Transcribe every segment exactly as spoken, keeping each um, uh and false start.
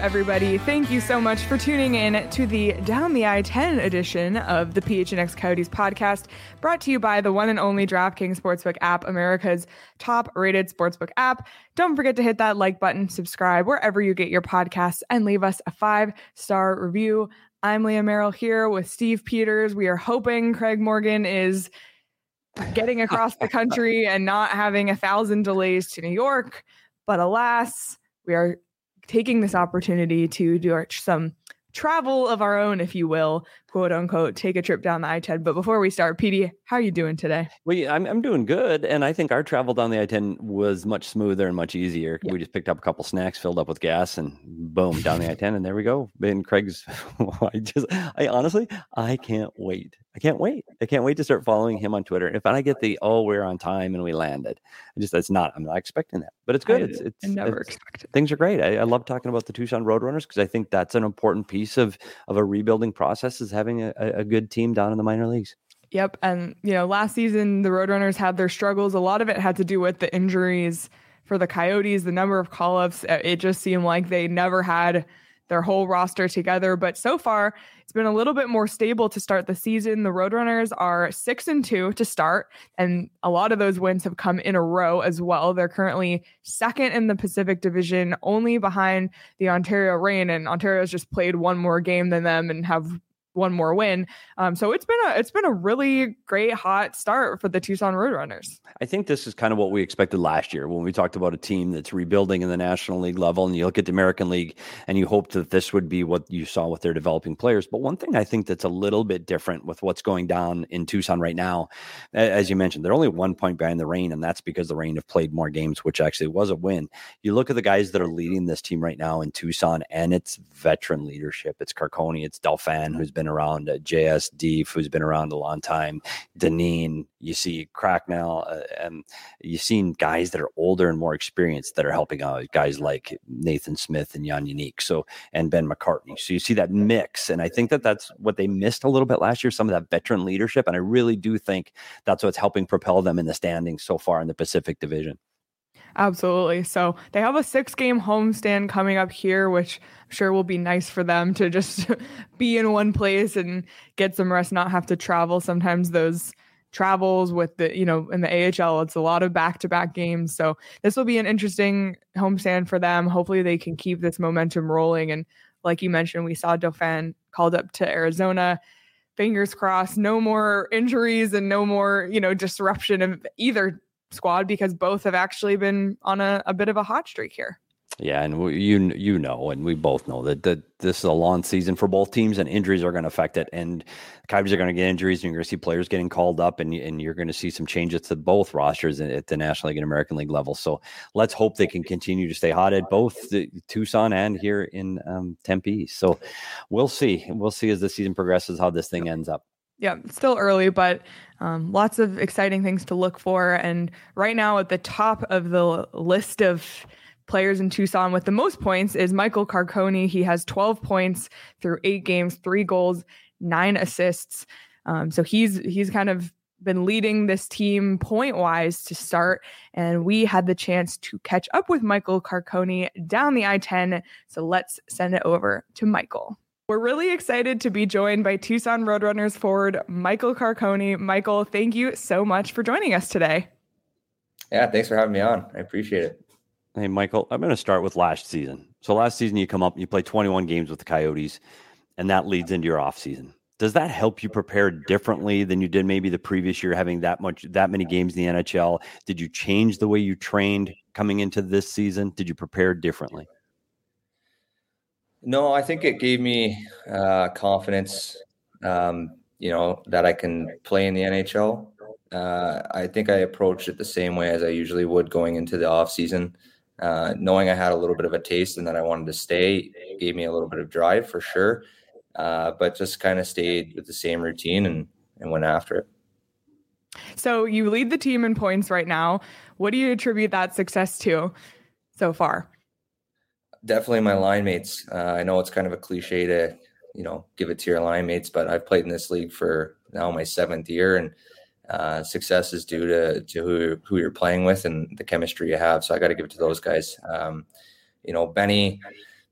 everybody. Thank you so much for tuning in to the Down the I ten edition of the P H N X Coyotes podcast, brought to you by the one and only DraftKings Sportsbook app, America's top-rated sportsbook app. Don't forget to hit that like button, subscribe wherever you get your podcasts, and leave us a five-star review. I'm Leah Merrill here with Steve Peters. We are hoping Craig Morgan is getting across the country and not having a thousand delays to New York. But alas, we are taking this opportunity to do some travel of our own, if you will, quote unquote, take a trip down the I ten. But before we start, P D, how are you doing today? Well, I'm I'm doing good, and I think our travel down the I ten was much smoother and much easier. Yeah. We just picked up a couple snacks, filled up with gas, and boom, down the I ten, and there we go. And Craig's, I just, I honestly, I can't wait. I can't wait. I can't wait to start following him on Twitter. If I get the, oh, we're on time and we landed, I just, it's not, I'm not expecting that, but it's good. I, it's, it's I never it's, expected. Things are great. I, I love talking about the Tucson Roadrunners because I think that's an important piece of, of a rebuilding process, is having a, a good team down in the minor leagues. Yep. And, you know, last season, the Roadrunners had their struggles. A lot of it had to do with the injuries for the Coyotes, the number of call-ups. It just seemed like they never had their whole roster together. But so far, it's been a little bit more stable to start the season. The Roadrunners are six and two to start, and a lot of those wins have come in a row as well. They're currently second in the Pacific Division, only behind the Ontario Reign, and Ontario's just played one more game than them and have one more win. Um, so it's been a it's been a really great hot start for the Tucson Roadrunners. I think this is kind of what we expected last year when we talked about a team that's rebuilding in the National League level, and you look at the American League and you hope that this would be what you saw with their developing players. But one thing I think that's a little bit different with what's going down in Tucson right now, as you mentioned, they're only one point behind the Reign, and that's because the Reign have played more games, which actually was a win. You look at the guys that are leading this team right now in Tucson, and it's veteran leadership. It's Carcone, it's Dauphin, who's been around, uh, J S Deef, who's been around a long time, Deneen, you see Cracknell, uh, and you've seen guys that are older and more experienced that are helping out, guys like Nathan Smith and Jan Unique, so, and Ben McCartney. So you see that mix, and I think that that's what they missed a little bit last year, some of that veteran leadership, and I really do think that's what's helping propel them in the standings so far in the Pacific Division. Absolutely. So they have a six-game homestand coming up here, which I'm sure will be nice for them to just be in one place and get some rest, not have to travel. Sometimes those travels with the, you know, in the A H L, it's a lot of back-to-back games. So this will be an interesting homestand for them. Hopefully they can keep this momentum rolling. And like you mentioned, we saw Dauphin called up to Arizona. Fingers crossed, no more injuries and no more, you know, disruption of either squad, because both have actually been on a, a bit of a hot streak here. Yeah, and we, you you know, and we both know that, that this is a long season for both teams, and injuries are going to affect it. And the Coyotes are going to get injuries, and you're going to see players getting called up, and, and you're going to see some changes to both rosters at the National League and American League level. So let's hope they can continue to stay hot at both the Tucson and here in um, Tempe. So we'll see. We'll see as the season progresses how this thing ends up. Yeah, it's still early, but um, lots of exciting things to look for. And right now at the top of the list of players in Tucson with the most points is Michael Carcone. He has twelve points through eight games, three goals, nine assists. Um, so he's he's kind of been leading this team point-wise to start. And we had the chance to catch up with Michael Carcone down the I ten. So let's send it over to Michael. We're really excited to be joined by Tucson Roadrunners forward Michael Carcone. Michael, thank you so much for joining us today. Yeah, thanks for having me on. I appreciate it. Hey, Michael, I'm going to start with last season. So last season you come up, you play twenty-one games with the Coyotes, and that leads into your off season. Does that help you prepare differently than you did maybe the previous year, having that much, that many games in the N H L? Did you change the way you trained coming into this season? Did you prepare differently? No, I think it gave me uh, confidence, um, you know, that I can play in the N H L. Uh, I think I approached it the same way as I usually would going into the off season, uh, knowing I had a little bit of a taste and that I wanted to stay. It gave me a little bit of drive for sure, uh, but just kind of stayed with the same routine and, and went after it. So you lead the team in points right now. What do you attribute that success to so far? Definitely my line mates. Uh, I know it's kind of a cliche to, you know, give it to your line mates, but I've played in this league for now my seventh year, and uh, success is due to, to who, who you're playing with and the chemistry you have. So I got to give it to those guys. Um, you know, Benny,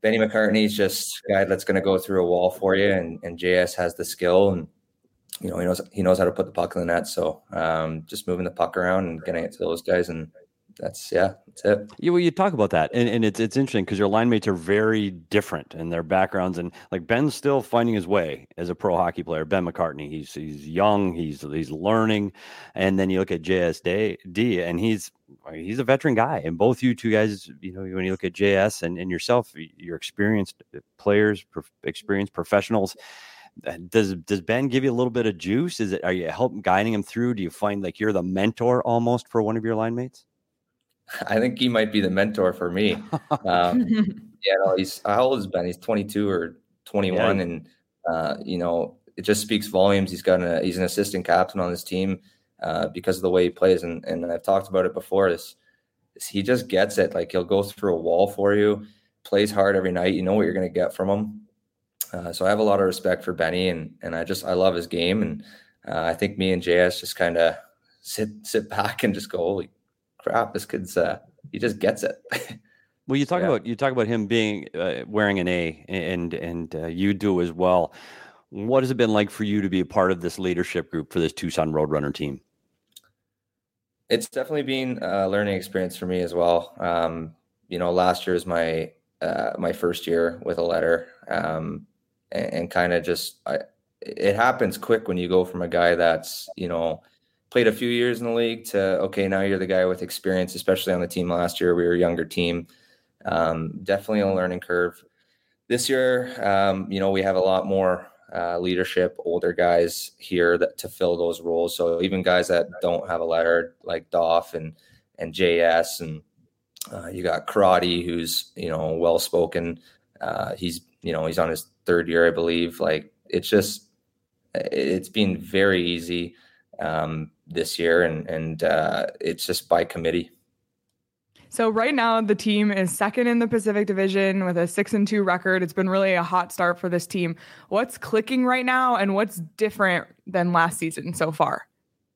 Benny McCartney's just a guy that's going to go through a wall for you, and, and J S has the skill, and you know he knows he knows how to put the puck in the net. So um, just moving the puck around and getting it to those guys, and that's yeah, that's it. Yeah, well, you talk about that, and, and it's it's interesting because your line mates are very different in their backgrounds, and like Ben's still finding his way as a pro hockey player. Ben McCartney, he's he's young, he's he's learning, and then you look at J S D, and he's he's a veteran guy. And both you two guys, you know, when you look at J S and, and yourself, you're experienced players, pro- experienced professionals. Does does Ben give you a little bit of juice? Is it are you helping guiding him through? Do you find like you're the mentor almost for one of your line mates? I think he might be the mentor for me. Um, yeah, no, he's how old is Ben? He's twenty-two or twenty-one, yeah. and uh, you know, it just speaks volumes. He's got a he's an assistant captain on this team uh, because of the way he plays, and and I've talked about it before. This, this he just gets it. Like he'll go through a wall for you, plays hard every night. You know what you're going to get from him. Uh, so I have a lot of respect for Benny, and and I just I love his game, and uh, I think me and J S just kind of sit sit back and just go, holy crap, this kid's uh he just gets it. Well, you talk yeah. about you talk about him being uh, wearing an A, and and uh, you do as well. What has it been like for you to be a part of this leadership group for this Tucson Roadrunner team? It's definitely been a learning experience for me as well. Um, you know, last year is my uh, my first year with a letter, um, and, and kind of just I, it happens quick when you go from a guy that's you know. played a few years in the league to, okay, now you're the guy with experience, especially on the team last year. We were a younger team. Um, definitely a learning curve. This year, um, you know, we have a lot more uh, leadership, older guys here that to fill those roles. So even guys that don't have a letter like Doff and, and J S, and uh, you got Karate, who's, you know, well-spoken. Uh, he's, you know, he's on his third year, I believe. Like, it's just, it's been very easy um this year, and and uh it's just by committee. So right now the team is second in the Pacific Division with a six and two record. It's been really a hot start for this team. What's clicking right now, and what's different than last season so far?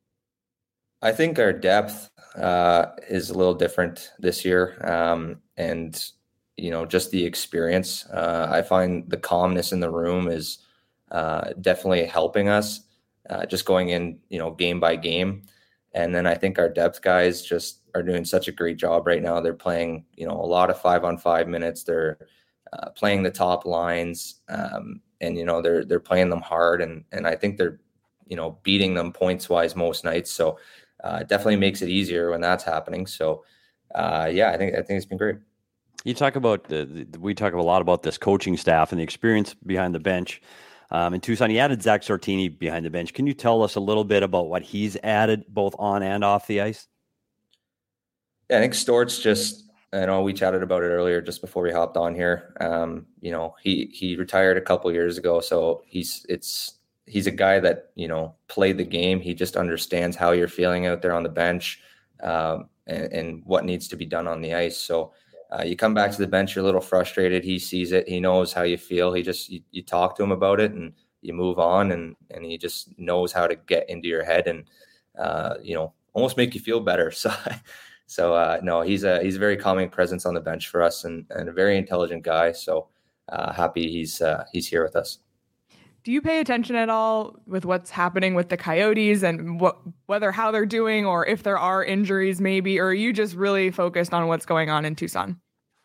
I think our depth uh is a little different this year, um and you know just the experience. uh I find the calmness in the room is uh definitely helping us. Uh, just going in, you know, game by game. And then I think our depth guys just are doing such a great job right now. They're playing, you know, a lot of five on five minutes. They're uh, playing the top lines, um, and, you know, they're, they're playing them hard. And, and I think they're, you know, beating them points wise most nights. So uh, it definitely makes it easier when that's happening. So uh, yeah, I think, I think it's been great. You talk about, the, the, we talk a lot about this coaching staff and the experience behind the bench. Um, in Tucson, he added Zach Sortini behind the bench. Can you tell us a little bit about what he's added both on and off the ice? Yeah, I think Stort's just, I know we chatted about it earlier just before we hopped on here. Um, you know, he he retired a couple years ago, so he's it's he's a guy that, you know, played the game. He just understands how you're feeling out there on the bench, um, and, and what needs to be done on the ice. So Uh, you come back to the bench, you're a little frustrated. He sees it. He knows how you feel. He just, you, you talk to him about it, and you move on, and, and he just knows how to get into your head and, uh, you know, almost make you feel better. So, so uh, no, he's a, he's a very calming presence on the bench for us, and, and a very intelligent guy. So uh, happy he's, uh, he's here with us. Do you pay attention at all with what's happening with the Coyotes and what, whether how they're doing, or if there are injuries maybe, or are you just really focused on what's going on in Tucson?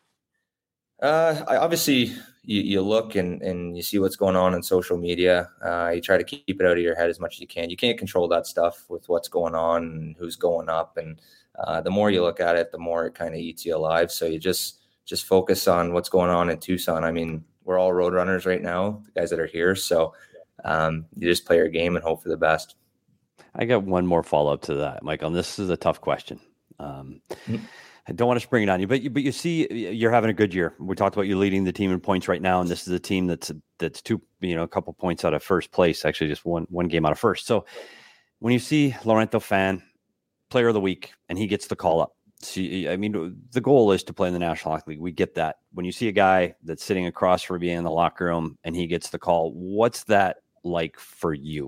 Uh, I obviously you, you look and, and you see what's going on in social media. Uh, you try to keep it out of your head as much as you can. You can't control that stuff with what's going on and who's going up. And uh, the more you look at it, the more it kind of eats you alive. So you just, just focus on what's going on in Tucson. I mean, we're all road runners right now, the guys that are here. So um, you just play your game and hope for the best. I got one more follow-up to that, Michael, and this is a tough question. Um, mm-hmm. I don't want to spring it on you, but you, but you see, you're having a good year. We talked about you leading the team in points right now, and this is a team that's that's two, you know, a couple points out of first place. Actually, just one one game out of first. So when you see Laurento Fan, Player of the Week, and he gets the call up, see, I mean, the goal is to play in the National Hockey League. We get that. When you see a guy that's sitting across from you in the locker room and he gets the call, what's that like for you?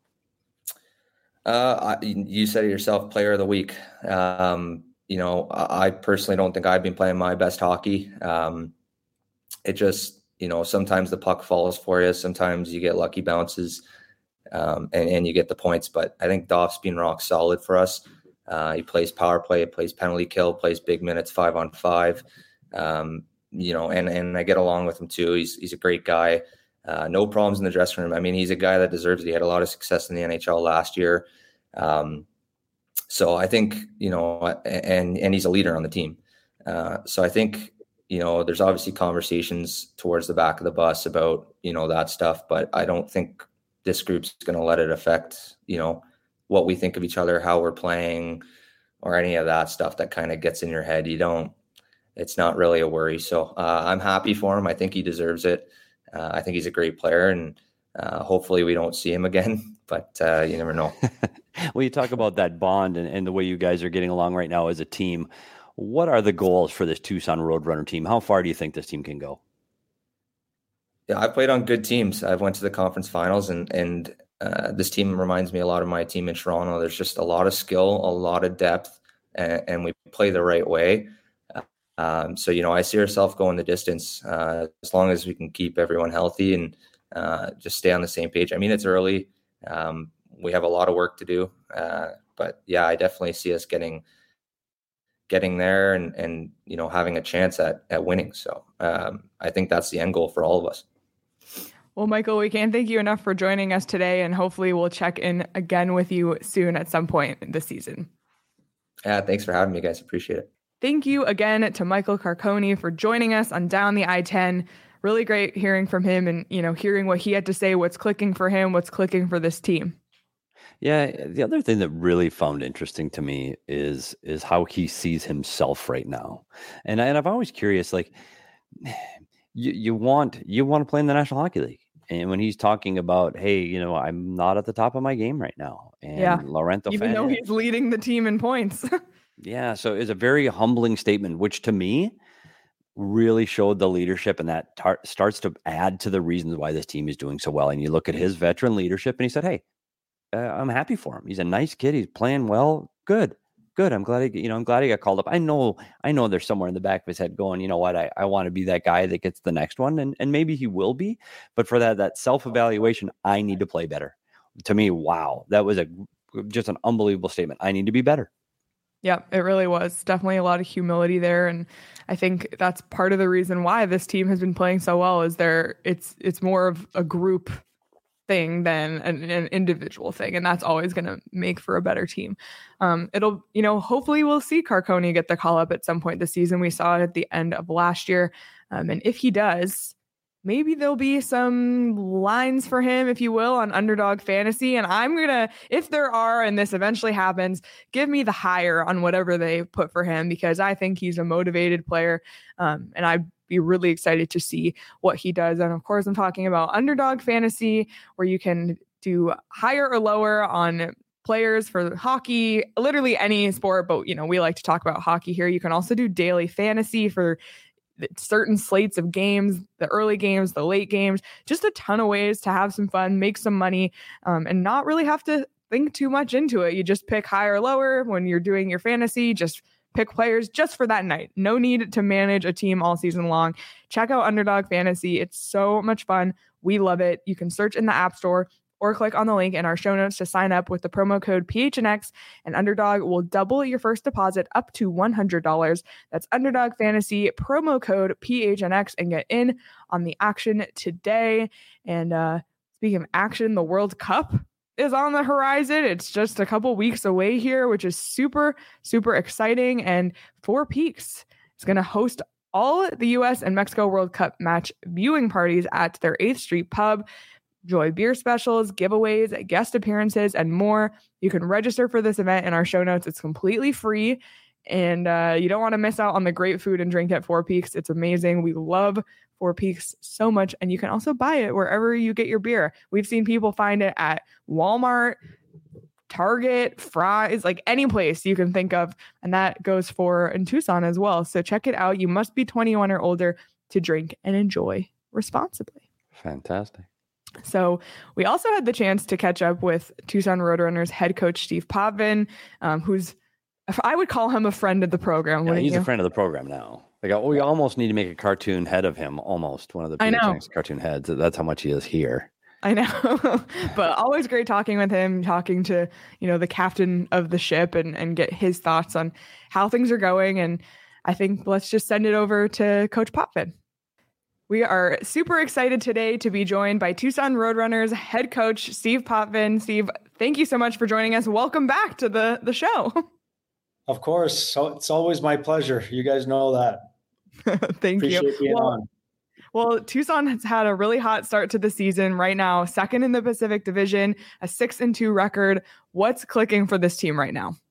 Uh, I, you said it yourself, Player of the Week. Um, You know, I personally don't think I've been playing my best hockey. Um, it just, you know, sometimes the puck falls for you. Sometimes you get lucky bounces um, and, and you get the points. But I think Doff's been rock solid for us. Uh, he plays power play, he plays penalty kill, plays big minutes, five on five. Um, you know, and, and I get along with him too. He's, he's a great guy. Uh, no problems in the dressing room. I mean, he's a guy that deserves it. He had a lot of success in the N H L last year. Um, so I think, you know, and, and he's a leader on the team. Uh, so I think, you know, there's obviously conversations towards the back of the bus about, you know, that stuff, but I don't think this group's going to let it affect, you know, what we think of each other, how we're playing, or any of that stuff that kind of gets in your head. You don't, it's not really a worry. So uh, I'm happy for him. I think he deserves it. Uh, I think he's a great player, and uh, hopefully we don't see him again, but uh, you never know. Well, you talk about that bond and, and the way you guys are getting along right now as a team. What are the goals for this Tucson Roadrunner team? How far do you think this team can go? Yeah, I've played on good teams. I've went to the conference finals, and and uh, this team reminds me a lot of my team in Toronto. There's just a lot of skill, a lot of depth, and, and we play the right way. Um, so, you know, I see ourselves going the distance uh, as long as we can keep everyone healthy and uh, just stay on the same page. I mean, it's early. Um, we have a lot of work to do. Uh, but yeah, I definitely see us getting getting there and, and you know, having a chance at, at winning. So um, I think that's the end goal for all of us. Well, Michael, we can't thank you enough for joining us today, and hopefully we'll check in again with you soon at some point this season. Yeah, thanks for having me, guys. Appreciate it. Thank you again to Michael Carcone for joining us on Down the I ten. Really great hearing from him and, you know, hearing what he had to say, what's clicking for him, what's clicking for this team. Yeah, the other thing that really found interesting to me is is how he sees himself right now. And, I, and I'm always curious, like, you, you want you want to play in the National Hockey League. And when he's talking about, hey, you know, I'm not at the top of my game right now. And yeah. Laurento Even Fan, though he's leading the team in points. Yeah, so it's a very humbling statement, which to me really showed the leadership, and that tar- starts to add to the reasons why this team is doing so well. And you look at his veteran leadership, and he said, hey, uh, I'm happy for him. He's a nice kid. He's playing well. Good, good. I'm glad he, you know, I'm glad he got called up. I know, I know there's somewhere in the back of his head going, you know what, I, I want to be that guy that gets the next one. And, and maybe he will be, but for that, that self-evaluation, I need to play better. To me, wow, that was a just an unbelievable statement. I need to be better. Yeah, it really was. Definitely a lot of humility there. And I think that's part of the reason why this team has been playing so well is there it's it's more of a group thing than an, an individual thing. And that's always going to make for a better team. Um, it'll, you know, hopefully we'll see Carcone get the call up at some point this season. We saw it at the end of last year. Um, and if he does, maybe there'll be some lines for him, if you will, on Underdog Fantasy. And I'm going to, if there are, and this eventually happens, give me the higher on whatever they put for him, because I think he's a motivated player. Um, and I'd be really excited to see what he does. And of course, I'm talking about Underdog Fantasy, where you can do higher or lower on players for hockey, literally any sport. But, you know, we like to talk about hockey here. You can also do daily fantasy for certain slates of games, the early games, the late games, just a ton of ways to have some fun, make some money, um, and not really have to think too much into it. You just pick higher or lower when you're doing your fantasy, just pick players just for that night. No need to manage a team all season long. Check out Underdog Fantasy. It's so much fun. We love it. You can search in the App Store or click on the link in our show notes to sign up with the promo code P H N X, and Underdog will double your first deposit up to one hundred dollars. That's Underdog Fantasy, promo code P H N X, and get in on the action today. And uh, speaking of action, the World Cup is on the horizon. It's just a couple weeks away here, which is super, super exciting. And Four Peaks is going to host all the U S and Mexico World Cup match viewing parties at their eighth Street pub. Enjoy beer specials, giveaways, guest appearances, and more. You can register for this event in our show notes. It's completely free, and uh, you don't want to miss out on the great food and drink at Four Peaks. It's amazing. We love Four Peaks so much, and you can also buy it wherever you get your beer. We've seen people find it at Walmart, Target, Fry's, like any place you can think of, and that goes for in Tucson as well. So check it out. You must be twenty-one or older to drink and enjoy responsibly. Fantastic. So we also had the chance to catch up with Tucson Roadrunners head coach Steve Potvin, um, who's, I would call him a friend of the program. Yeah, he's you? a friend of the program now. Like, oh, we almost need to make a cartoon head of him. Almost one of the I know. cartoon heads. That's how much he is here. I know, but always great talking with him, talking to, you know, the captain of the ship and, and get his thoughts on how things are going. And I think let's just send it over to Coach Potvin. We are super excited today to be joined by Tucson Roadrunners head coach, Steve Potvin. Steve, thank you so much for joining us. Welcome back to the, the show. Of course. So it's always my pleasure. You guys know that. Thank Appreciate you. Being well, on. Well, Tucson has had a really hot start to the season right now, second in the Pacific Division, a six and two record. What's clicking for this team right now?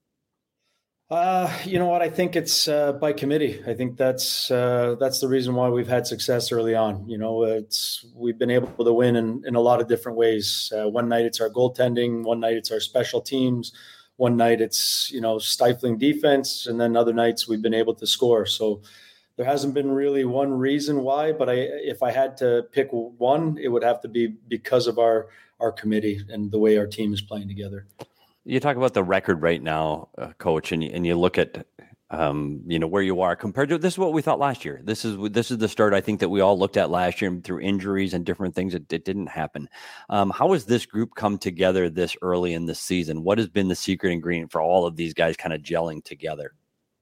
Uh, you know what? I think it's uh, by committee. I think that's uh, that's the reason why we've had success early on. You know, it's we've been able to win in, in a lot of different ways. Uh, one night it's our goaltending, one night it's our special teams, one night it's, you know, stifling defense, and then other nights we've been able to score. So there hasn't been really one reason why, but I, if I had to pick one, it would have to be because of our, our committee and the way our team is playing together. You talk about the record right now, uh, Coach, and you, and you look at, um, you know, where you are compared to, this is what we thought last year. This is, this is the start I think that we all looked at last year, and through injuries and different things, it, it didn't happen. Um, how has this group come together this early in the season? What has been the secret ingredient for all of these guys kind of gelling together?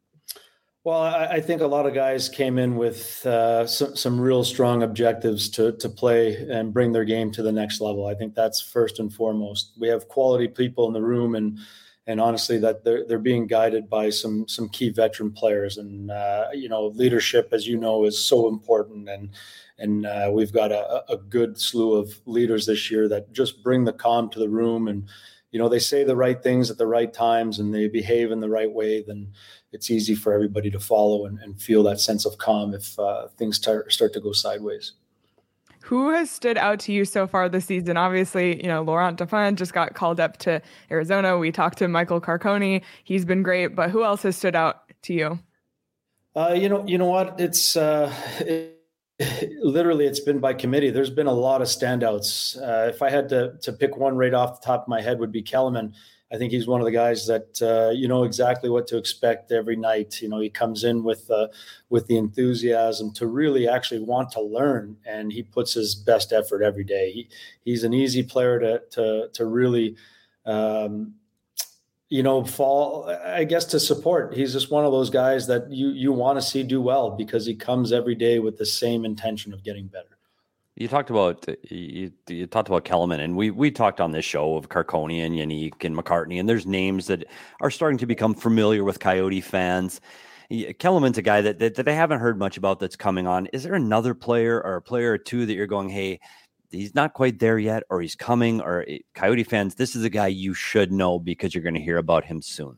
Well, I, I think a lot of guys came in with uh, some, some real strong objectives to to play and bring their game to the next level. I think that's first and foremost. We have quality people in the room, and and honestly, that they're they're being guided by some some key veteran players. And uh, you know, leadership, as you know, is so important. And and uh, we've got a, a good slew of leaders this year that just bring the calm to the room. And you know, they say the right things at the right times, and they behave in the right way. Then it's easy for everybody to follow and, and feel that sense of calm if uh, things tar- start to go sideways. Who has stood out to you so far this season? Obviously, you know, Laurent Dauphin just got called up to Arizona. We talked to Michael Carcone. He's been great, but who else has stood out to you? Uh, you know, you know what? It's uh, it, literally, it's been by committee. There's been a lot of standouts. Uh, if I had to to pick one right off the top of my head, would be Kellerman. I think he's one of the guys that uh, you know exactly what to expect every night. You know, he comes in with uh, with the enthusiasm to really actually want to learn, and he puts his best effort every day. He, he's an easy player to to to really, um, you know, fall. I guess to support. He's just one of those guys that you you want to see do well because he comes every day with the same intention of getting better. You talked about you, you talked about Kellerman, and we we talked on this show of Carcone and Yannick and McCartney, and there's names that are starting to become familiar with Coyote fans. Kellerman's a guy that, that that I haven't heard much about that's coming on. Is there another player or a player or two that you're going, hey, he's not quite there yet, or he's coming, or Coyote fans, this is a guy you should know because you're going to hear about him soon?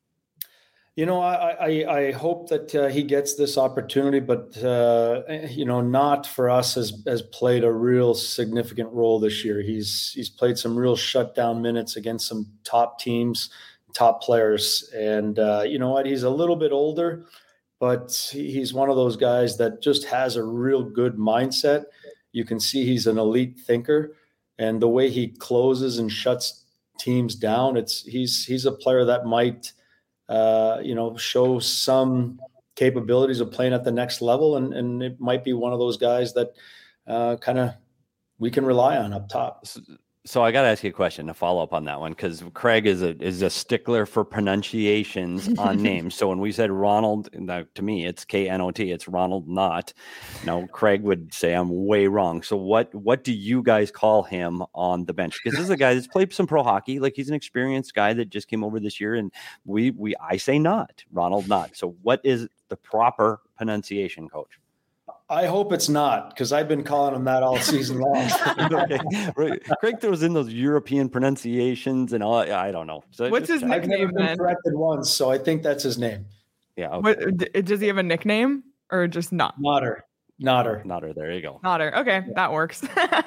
You know, I, I, I hope that uh, he gets this opportunity, but, uh, you know, not for us has, has played a real significant role this year. He's he's played some real shutdown minutes against some top teams, top players. And uh, you know what? He's a little bit older, but he's one of those guys that just has a real good mindset. You can see he's an elite thinker. And the way he closes and shuts teams down, it's he's he's a player that might – Uh, you know, show some capabilities of playing at the next level. And, and it might be one of those guys that uh, kind of we can rely on up top. So I got to ask you a question to follow up on that one, because Craig is a is a stickler for pronunciations on names. So when we said Ronald, to me, it's K N O T. It's Ronald Knott. Now, Craig would say I'm way wrong. So what what do you guys call him on the bench? Because this is a guy that's played some pro hockey. Like, he's an experienced guy that just came over this year. And we we I say Knott, Ronald Knott. So what is the proper pronunciation, Coach? I hope it's not, because I've been calling him that all season long. Okay. Right. Craig throws in those European pronunciations and all. I don't know. So What's his I've nickname never been then? corrected once, so I think that's his name. Yeah. Okay. What, d- does he have a nickname or just not? Nodder. Nodder. Nodder. There you go. Nodder. Okay, yeah. That works.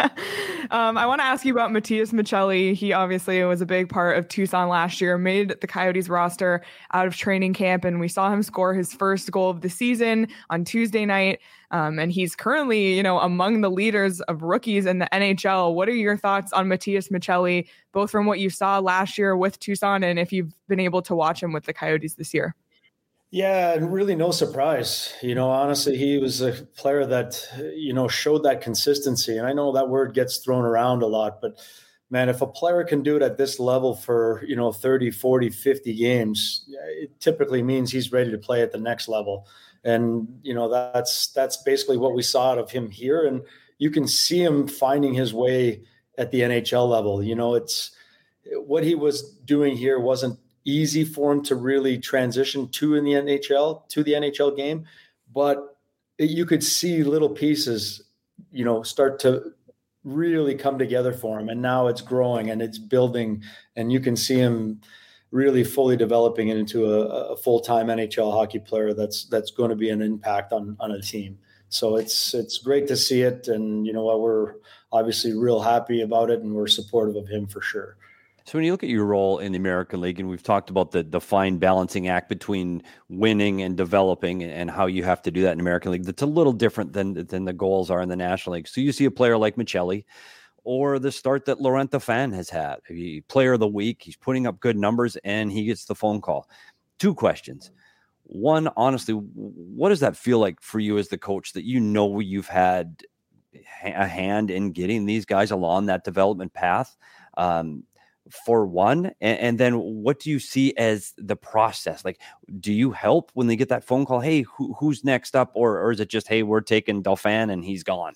um, I want to ask you about Matias Michelli. He obviously was a big part of Tucson last year, made the Coyotes roster out of training camp, and we saw him score his first goal of the season on Tuesday night. Um, and he's currently, you know, among the leaders of rookies in the N H L. What are your thoughts on Matias Michelli, both from what you saw last year with Tucson and if you've been able to watch him with the Coyotes this year? Yeah, and really no surprise. You know, honestly, he was a player that, you know, showed that consistency. And I know that word gets thrown around a lot, but man, if a player can do it at this level for, you know, thirty, forty, fifty games, it typically means he's ready to play at the next level. And, you know, that's that's basically what we saw out of him here. And you can see him finding his way at the N H L level. You know, it's what he was doing here wasn't easy for him to really transition to in the N H L, to the N H L game. But you could see little pieces, you know, start to really come together for him. And now it's growing and it's building, and you can see him really fully developing it into a, a full-time N H L hockey player that's that's going to be an impact on, on a team. So it's it's great to see it. And, you know what, we're obviously real happy about it, and we're supportive of him for sure. So when you look at your role in the American League, and we've talked about the, the fine balancing act between winning and developing and how you have to do that in the American League, that's a little different than, than the goals are in the National League. So you see a player like Maccelli, or the start that Laurent Dauphin has had. He, player of the week, he's putting up good numbers, and he gets the phone call. Two questions. One, honestly, what does that feel like for you as the coach, that you know you've had a hand in getting these guys along that development path? Um, for one, and, and then what do you see as the process? Like, do you help when they get that phone call? Hey, who, who's next up? Or, or is it just, hey, we're taking Dauphin and he's gone?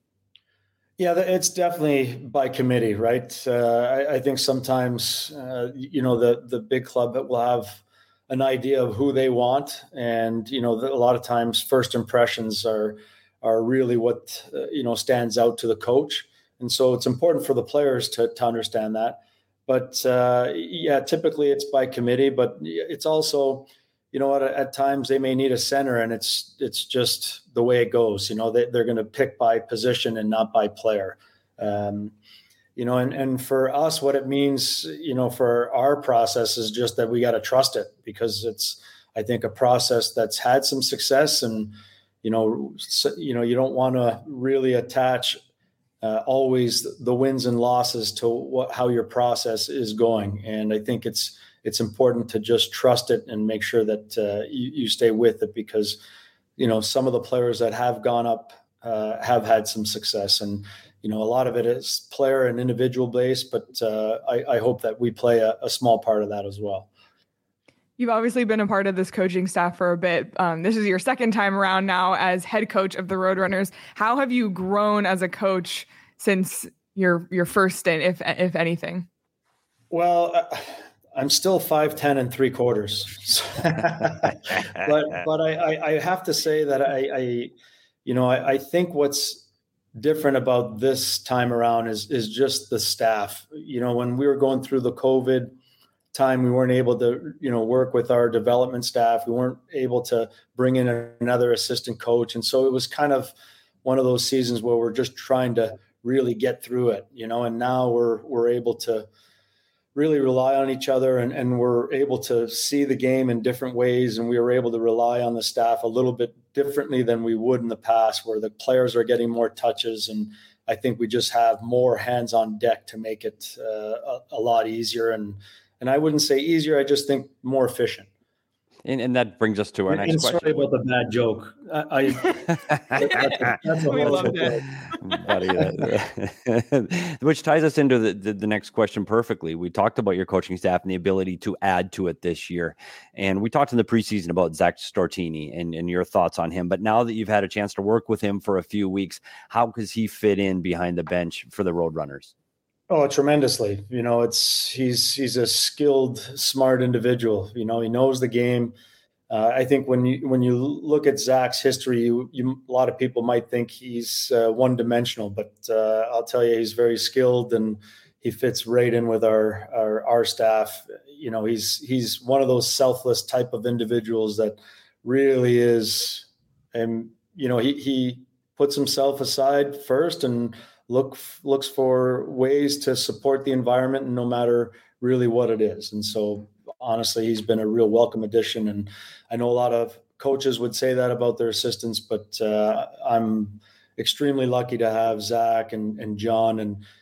Yeah, it's definitely by committee, right? Uh, I, I think sometimes, uh, you know, the, the big club will have an idea of who they want. And, you know, the, a lot of times first impressions are, are really what, uh, you know, stands out to the coach. And so it's important for the players to, to understand that. But uh, yeah, typically it's by committee, but it's also, you know, at, at times they may need a center, and it's it's just the way it goes. You know, they, they're going to pick by position and not by player. Um, you know, and, and for us, what it means, you know, for our process is just that we got to trust it, because it's, I think, a process that's had some success, and, you know, so, you know, you don't want to really attach Uh, always the wins and losses to what, how your process is going. And I think it's it's important to just trust it and make sure that uh, you, you stay with it, because, you know, some of the players that have gone up uh, have had some success. And, you know, a lot of it is player and individual based, but uh, I, I hope that we play a, a small part of that as well. You've obviously been a part of this coaching staff for a bit. Um, this is your second time around now as head coach of the Roadrunners. How have you grown as a coach since your your first stint, if if anything? Well, uh, I'm still five ten and three quarters, but but I, I have to say that I, I you know I, I think what's different about this time around is is just the staff. You know, when we were going through the COVID time, we weren't able to, you know, work with our development staff. We weren't able to bring in another assistant coach. And so it was kind of one of those seasons where we're just trying to really get through it, you know, and now we're, we're able to really rely on each other, and, and we're able to see the game in different ways. And we were able to rely on the staff a little bit differently than we would in the past, where the players are getting more touches. And I think we just have more hands on deck to make it uh, a, a lot easier. And, And I wouldn't say easier, I just think more efficient. And, and that brings us to our and, next and question. Sorry about the bad joke. I, I that's, that's we loved it. Buddy, which ties us into the, the, the next question perfectly. We talked about your coaching staff and the ability to add to it this year. And we talked in the preseason about Zach Stortini and, and your thoughts on him. But now that you've had a chance to work with him for a few weeks, how does he fit in behind the bench for the Roadrunners? Oh, tremendously. You know, it's he's he's a skilled, smart individual. You know, he knows the game. Uh, I think when you when you look at Zach's history, you, you, a lot of people might think he's uh, one-dimensional, but uh, I'll tell you, he's very skilled, and he fits right in with our, our our staff. You know, he's he's one of those selfless type of individuals that really is, and you know, he he puts himself aside first and look looks for ways to support the environment, no matter really what it is. And so honestly, he's been a real welcome addition. And I know a lot of coaches would say that about their assistants, but uh, I'm extremely lucky to have Zach and, and John and,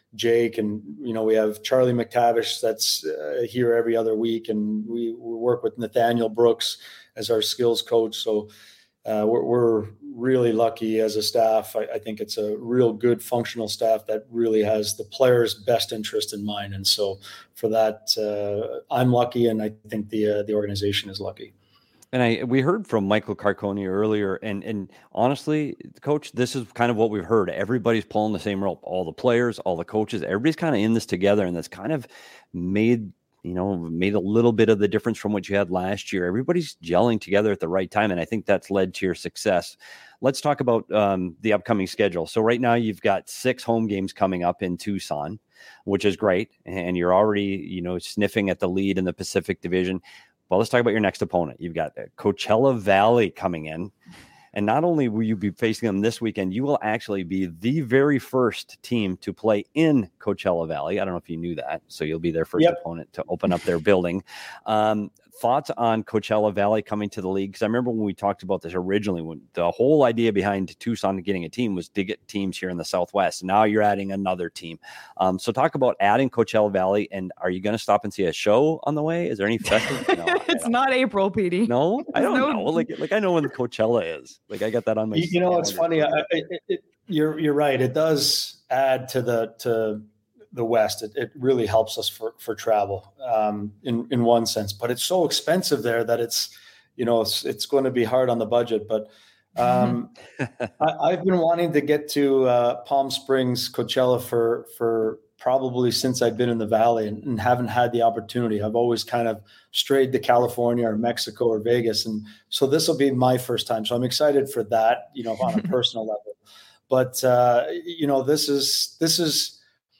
Jake, and, you know, we have Charlie McTavish that's uh, here every other week, and we, we work with Nathaniel Brooks as our skills coach. So uh, we're, we're really lucky as a staff. I, I think it's a real good functional staff that really has the players' best interest in mind. And so for that, uh, I'm lucky, and I think the uh, the organization is lucky. And I we heard from Michael Carconi earlier, and and honestly, Coach, this is kind of what we've heard. Everybody's pulling the same rope. All the players, all the coaches, everybody's kind of in this together, and that's kind of made you know made a little bit of the difference from what you had last year. Everybody's gelling together at the right time, and I think that's led to your success. Let's talk about um, the upcoming schedule. So right now, you've got six home games coming up in Tucson, which is great, and you're already you know sniffing at the lead in the Pacific Division. Well, let's talk about your next opponent. You've got Coachella Valley coming in. And not only will you be facing them this weekend, you will actually be the very first team to play in Coachella Valley. I don't know if you knew that. So you'll be their first yep. opponent to open up their building. Um, thoughts on Coachella Valley coming to the league? Because I remember when we talked about this originally, when the whole idea behind Tucson getting a team was to get teams here in the Southwest. Now you're adding another team. Um, so talk about adding Coachella Valley, and are you going to stop and see a show on the way? Is there any festival? No, it's not April, P D. No, I don't no. know. Like, like I know when Coachella is. Like I got that on my. You know, it's funny. I, it, it, you're you're right. It does add to the to. the West. It, it really helps us for, for travel um, in, in one sense, but it's so expensive there that it's, you know, it's, it's going to be hard on the budget, but um, I, I've been wanting to get to uh, Palm Springs, Coachella for, for probably since I've been in the Valley, and, and haven't had the opportunity. I've always kind of strayed to California or Mexico or Vegas. And so this will be my first time. So I'm excited for that, you know, on a personal level, but uh, you know, this is, this is,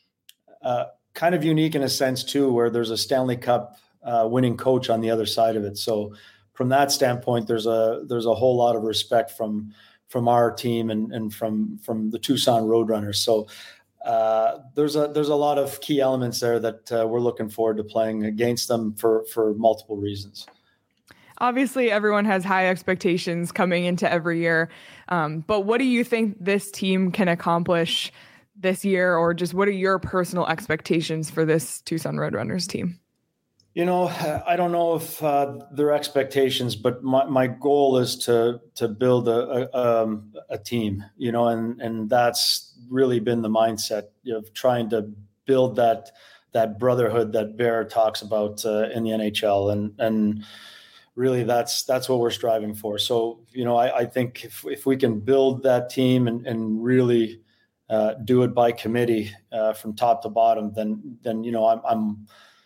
Uh, kind of unique in a sense too, where there's a Stanley Cup uh, winning coach on the other side of it. So from that standpoint, there's a there's a whole lot of respect from from our team and and from from the Tucson Roadrunners. So uh, there's a there's a lot of key elements there that uh, we're looking forward to playing against them for for multiple reasons. Obviously, everyone has high expectations coming into every year, um, but what do you think this team can accomplish this year, or just what are your personal expectations for this Tucson Roadrunners team? You know, I don't know if uh, their expectations, but my, my goal is to to build a a, um, a team, you know, and and that's really been the mindset of trying to build that that brotherhood that Bear talks about uh, in the N H L, and and really that's that's what we're striving for. So, you know, I, I think if if we can build that team and and really Uh, do it by committee uh, from top to bottom, then, then, you know, I'm, I'm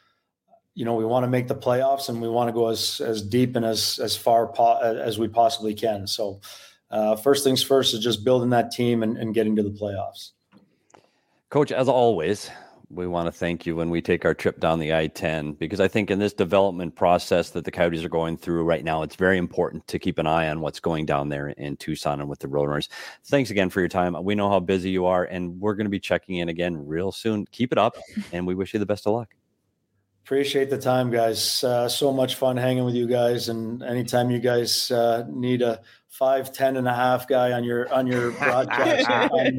you know, we want to make the playoffs, and we want to go as, as deep and as, as far po- as we possibly can. So uh, first things first is just building that team and, and getting to the playoffs. Coach, as always, we want to thank you when we take our trip down the I ten, because I think in this development process that the Coyotes are going through right now, it's very important to keep an eye on what's going down there in Tucson and with the Roadrunners. Thanks again for your time. We know how busy you are, and we're going to be checking in again real soon. Keep it up, and we wish you the best of luck. Appreciate the time, guys. Uh, so much fun hanging with you guys. And anytime you guys uh, need a five, ten and a half guy on your, on your broadcast, I'm,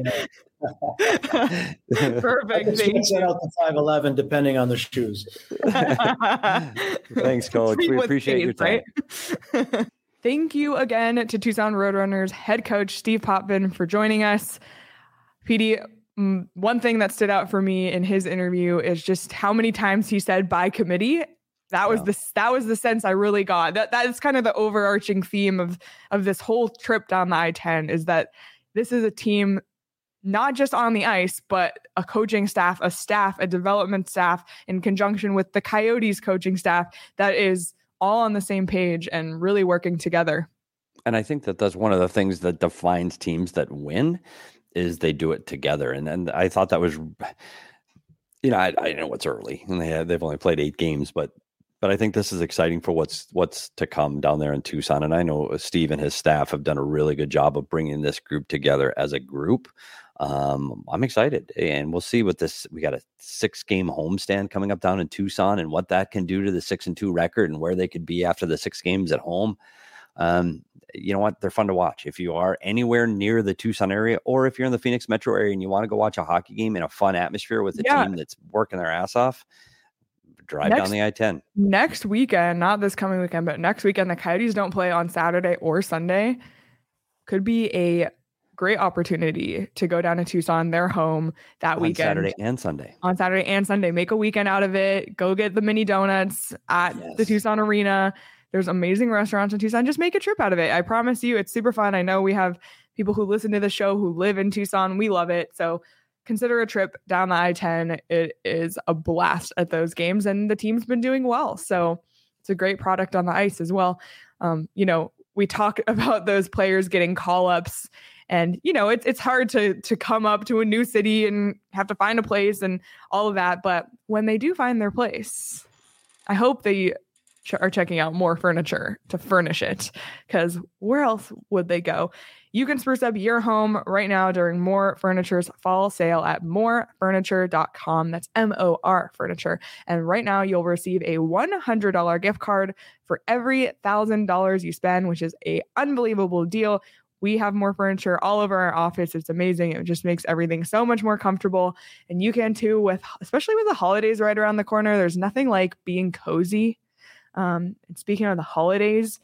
perfect. Thank you. Out to five eleven, depending on the shoes. Thanks, Coach. We appreciate your time. Right? Thank you again to Tucson Roadrunners head coach Steve Potvin for joining us. P D, one thing that stood out for me in his interview is just how many times he said by committee. That was yeah. the that was the sense I really got. That that is kind of the overarching theme of of this whole trip down the I ten, is that this is a team not just on the ice, but a coaching staff, a staff, a development staff in conjunction with the Coyotes coaching staff that is all on the same page and really working together. And I think that that's one of the things that defines teams that win, is they do it together. And and I thought that was, you know, I, I know it's early and they have, they've only played eight games, but but I think this is exciting for what's what's to come down there in Tucson. And I know Steve and his staff have done a really good job of bringing this group together as a group. Um, I'm excited, and we'll see what this, we got a six game homestand coming up down in Tucson, and what that can do to the six and two record and where they could be after the six games at home. Um, you know what? They're fun to watch. If you are anywhere near the Tucson area, or if you're in the Phoenix metro area and you want to go watch a hockey game in a fun atmosphere with a yeah. team that's working their ass off, drive next, down the I ten. Next weekend, not this coming weekend, but next weekend, the Coyotes don't play on Saturday or Sunday. Could be a great opportunity to go down to Tucson, their home, that on weekend. Saturday and Sunday. On Saturday and Sunday. Make a weekend out of it. Go get the mini donuts at yes. the Tucson Arena. There's amazing restaurants in Tucson. Just make a trip out of it. I promise you, it's super fun. I know we have people who listen to the show who live in Tucson. We love it. So consider a trip down the I ten. It is a blast at those games, and the team's been doing well. So it's a great product on the ice as well. Um, you know, we talk about those players getting call-ups, and, you know, it's it's hard to to come up to a new city and have to find a place and all of that. But when they do find their place, I hope they ch- are checking out more furniture to furnish it, because where else would they go? You can spruce up your home right now during More Furniture's fall sale at more furniture dot com. That's M O R Furniture. And right now you'll receive a one hundred dollars gift card for every one thousand dollars you spend, which is an unbelievable deal. We have More Furniture all over our office. It's amazing. It just makes everything so much more comfortable. And you can too, with especially with the holidays right around the corner. There's nothing like being cozy. Um, and speaking of the holidays,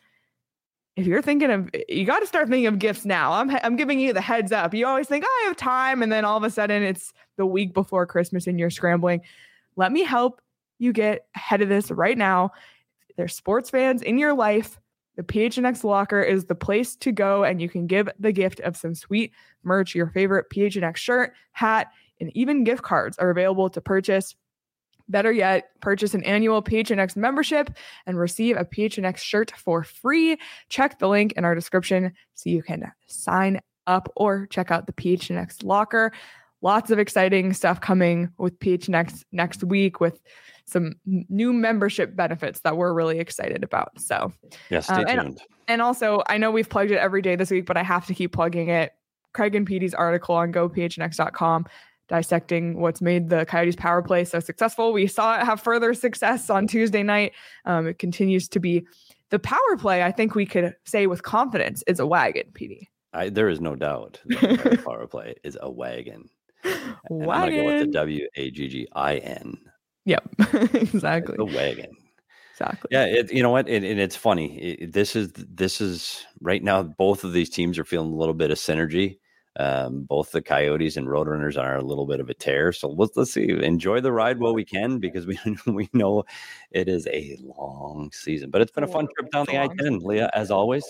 if you're thinking of, you got to start thinking of gifts now. I'm I'm giving you the heads up. You always think, oh, I have time. And then all of a sudden it's the week before Christmas and you're scrambling. Let me help you get ahead of this right now. There's sports fans in your life. The P H N X Locker is the place to go, and you can give the gift of some sweet merch. Your favorite P H N X shirt, hat, and even gift cards are available to purchase. Better yet, purchase an annual P H N X membership and receive a P H N X shirt for free. Check the link in our description so you can sign up or check out the P H N X Locker. Lots of exciting stuff coming with P H N X next week with some new membership benefits that we're really excited about. So, yeah, stay um, and, tuned. And also, I know we've plugged it every day this week, but I have to keep plugging it. Craig and Petey's article on go P H N X dot com dissecting what's made the Coyotes power play so successful. We saw it have further success on Tuesday night. Um, it continues to be the power play. I think we could say with confidence is a wagon, Petey. I, there is no doubt that the power play is a wagon. And Wagon. I'm going to go with the W A G G I N. Yep, exactly. The wagon. Exactly. Yeah, it, you know what? It, and it's funny. It, this is this is right now. Both of these teams are feeling a little bit of synergy. Um, both the Coyotes and Roadrunners are a little bit of a tear. So let's let's see. Enjoy the ride while we can, because we we know it is a long season. But it's been a fun trip down the I ten, Leah, as always.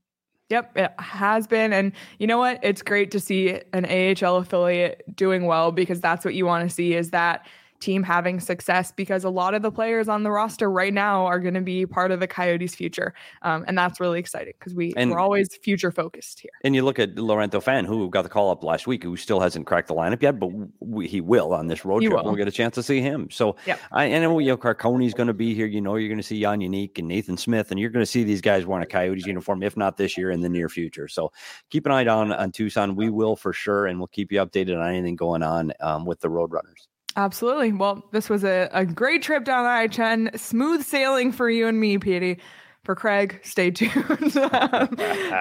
Yep, it has been. And you know what? It's great to see an A H L affiliate doing well, because that's what you want to see, is that team having success, because a lot of the players on the roster right now are going to be part of the Coyotes' future. Um, and that's really exciting, because we, we're always future focused here. And you look at Laurento Fan, who got the call up last week, who still hasn't cracked the lineup yet, but we, he will on this road he trip. Will. We'll get a chance to see him. So yep. I, I know, you know, Carconi's going to be here. You know, you're going to see Jan Unique and Nathan Smith, and you're going to see these guys wearing a Coyotes uniform, if not this year, in the near future. So keep an eye on, on Tucson. We will for sure, and we'll keep you updated on anything going on um, with the Roadrunners. Absolutely. Well, this was a, a great trip down the I ten. Smooth sailing for you and me, Petey. For Craig, stay tuned. um,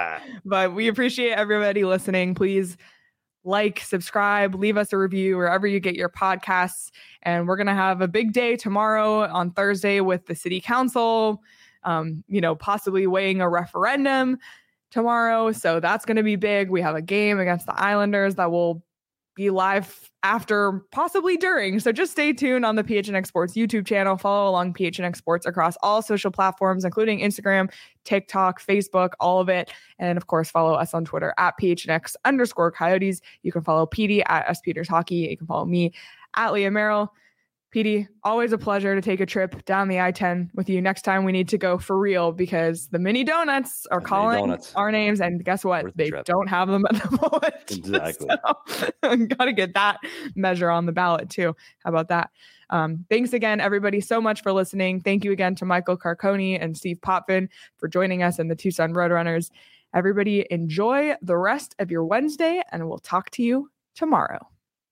but we appreciate everybody listening. Please like, subscribe, leave us a review wherever you get your podcasts. And we're going to have a big day tomorrow on Thursday with the city council, um, you know, possibly weighing a referendum tomorrow. So that's going to be big. We have a game against the Islanders that will be live after, possibly during. So just stay tuned on the P H N X Sports YouTube channel. Follow along P H N X Sports across all social platforms, including Instagram, TikTok, Facebook, all of it. And of course, follow us on Twitter at P H N X underscore Coyotes. You can follow Petey at S Peters Hockey. You can follow me at Leah Merrill. Petey, always a pleasure to take a trip down the I ten with you. Next time we need to go for real, because the mini donuts are the calling donuts. our names, and guess what? Worth they the don't have them at the moment. Exactly. So, got to get that measure on the ballot too. How about that? Um, thanks again, everybody, so much for listening. Thank you again to Michael Carconi and Steve Potvin for joining us in the Tucson Roadrunners. Everybody enjoy the rest of your Wednesday, and we'll talk to you tomorrow.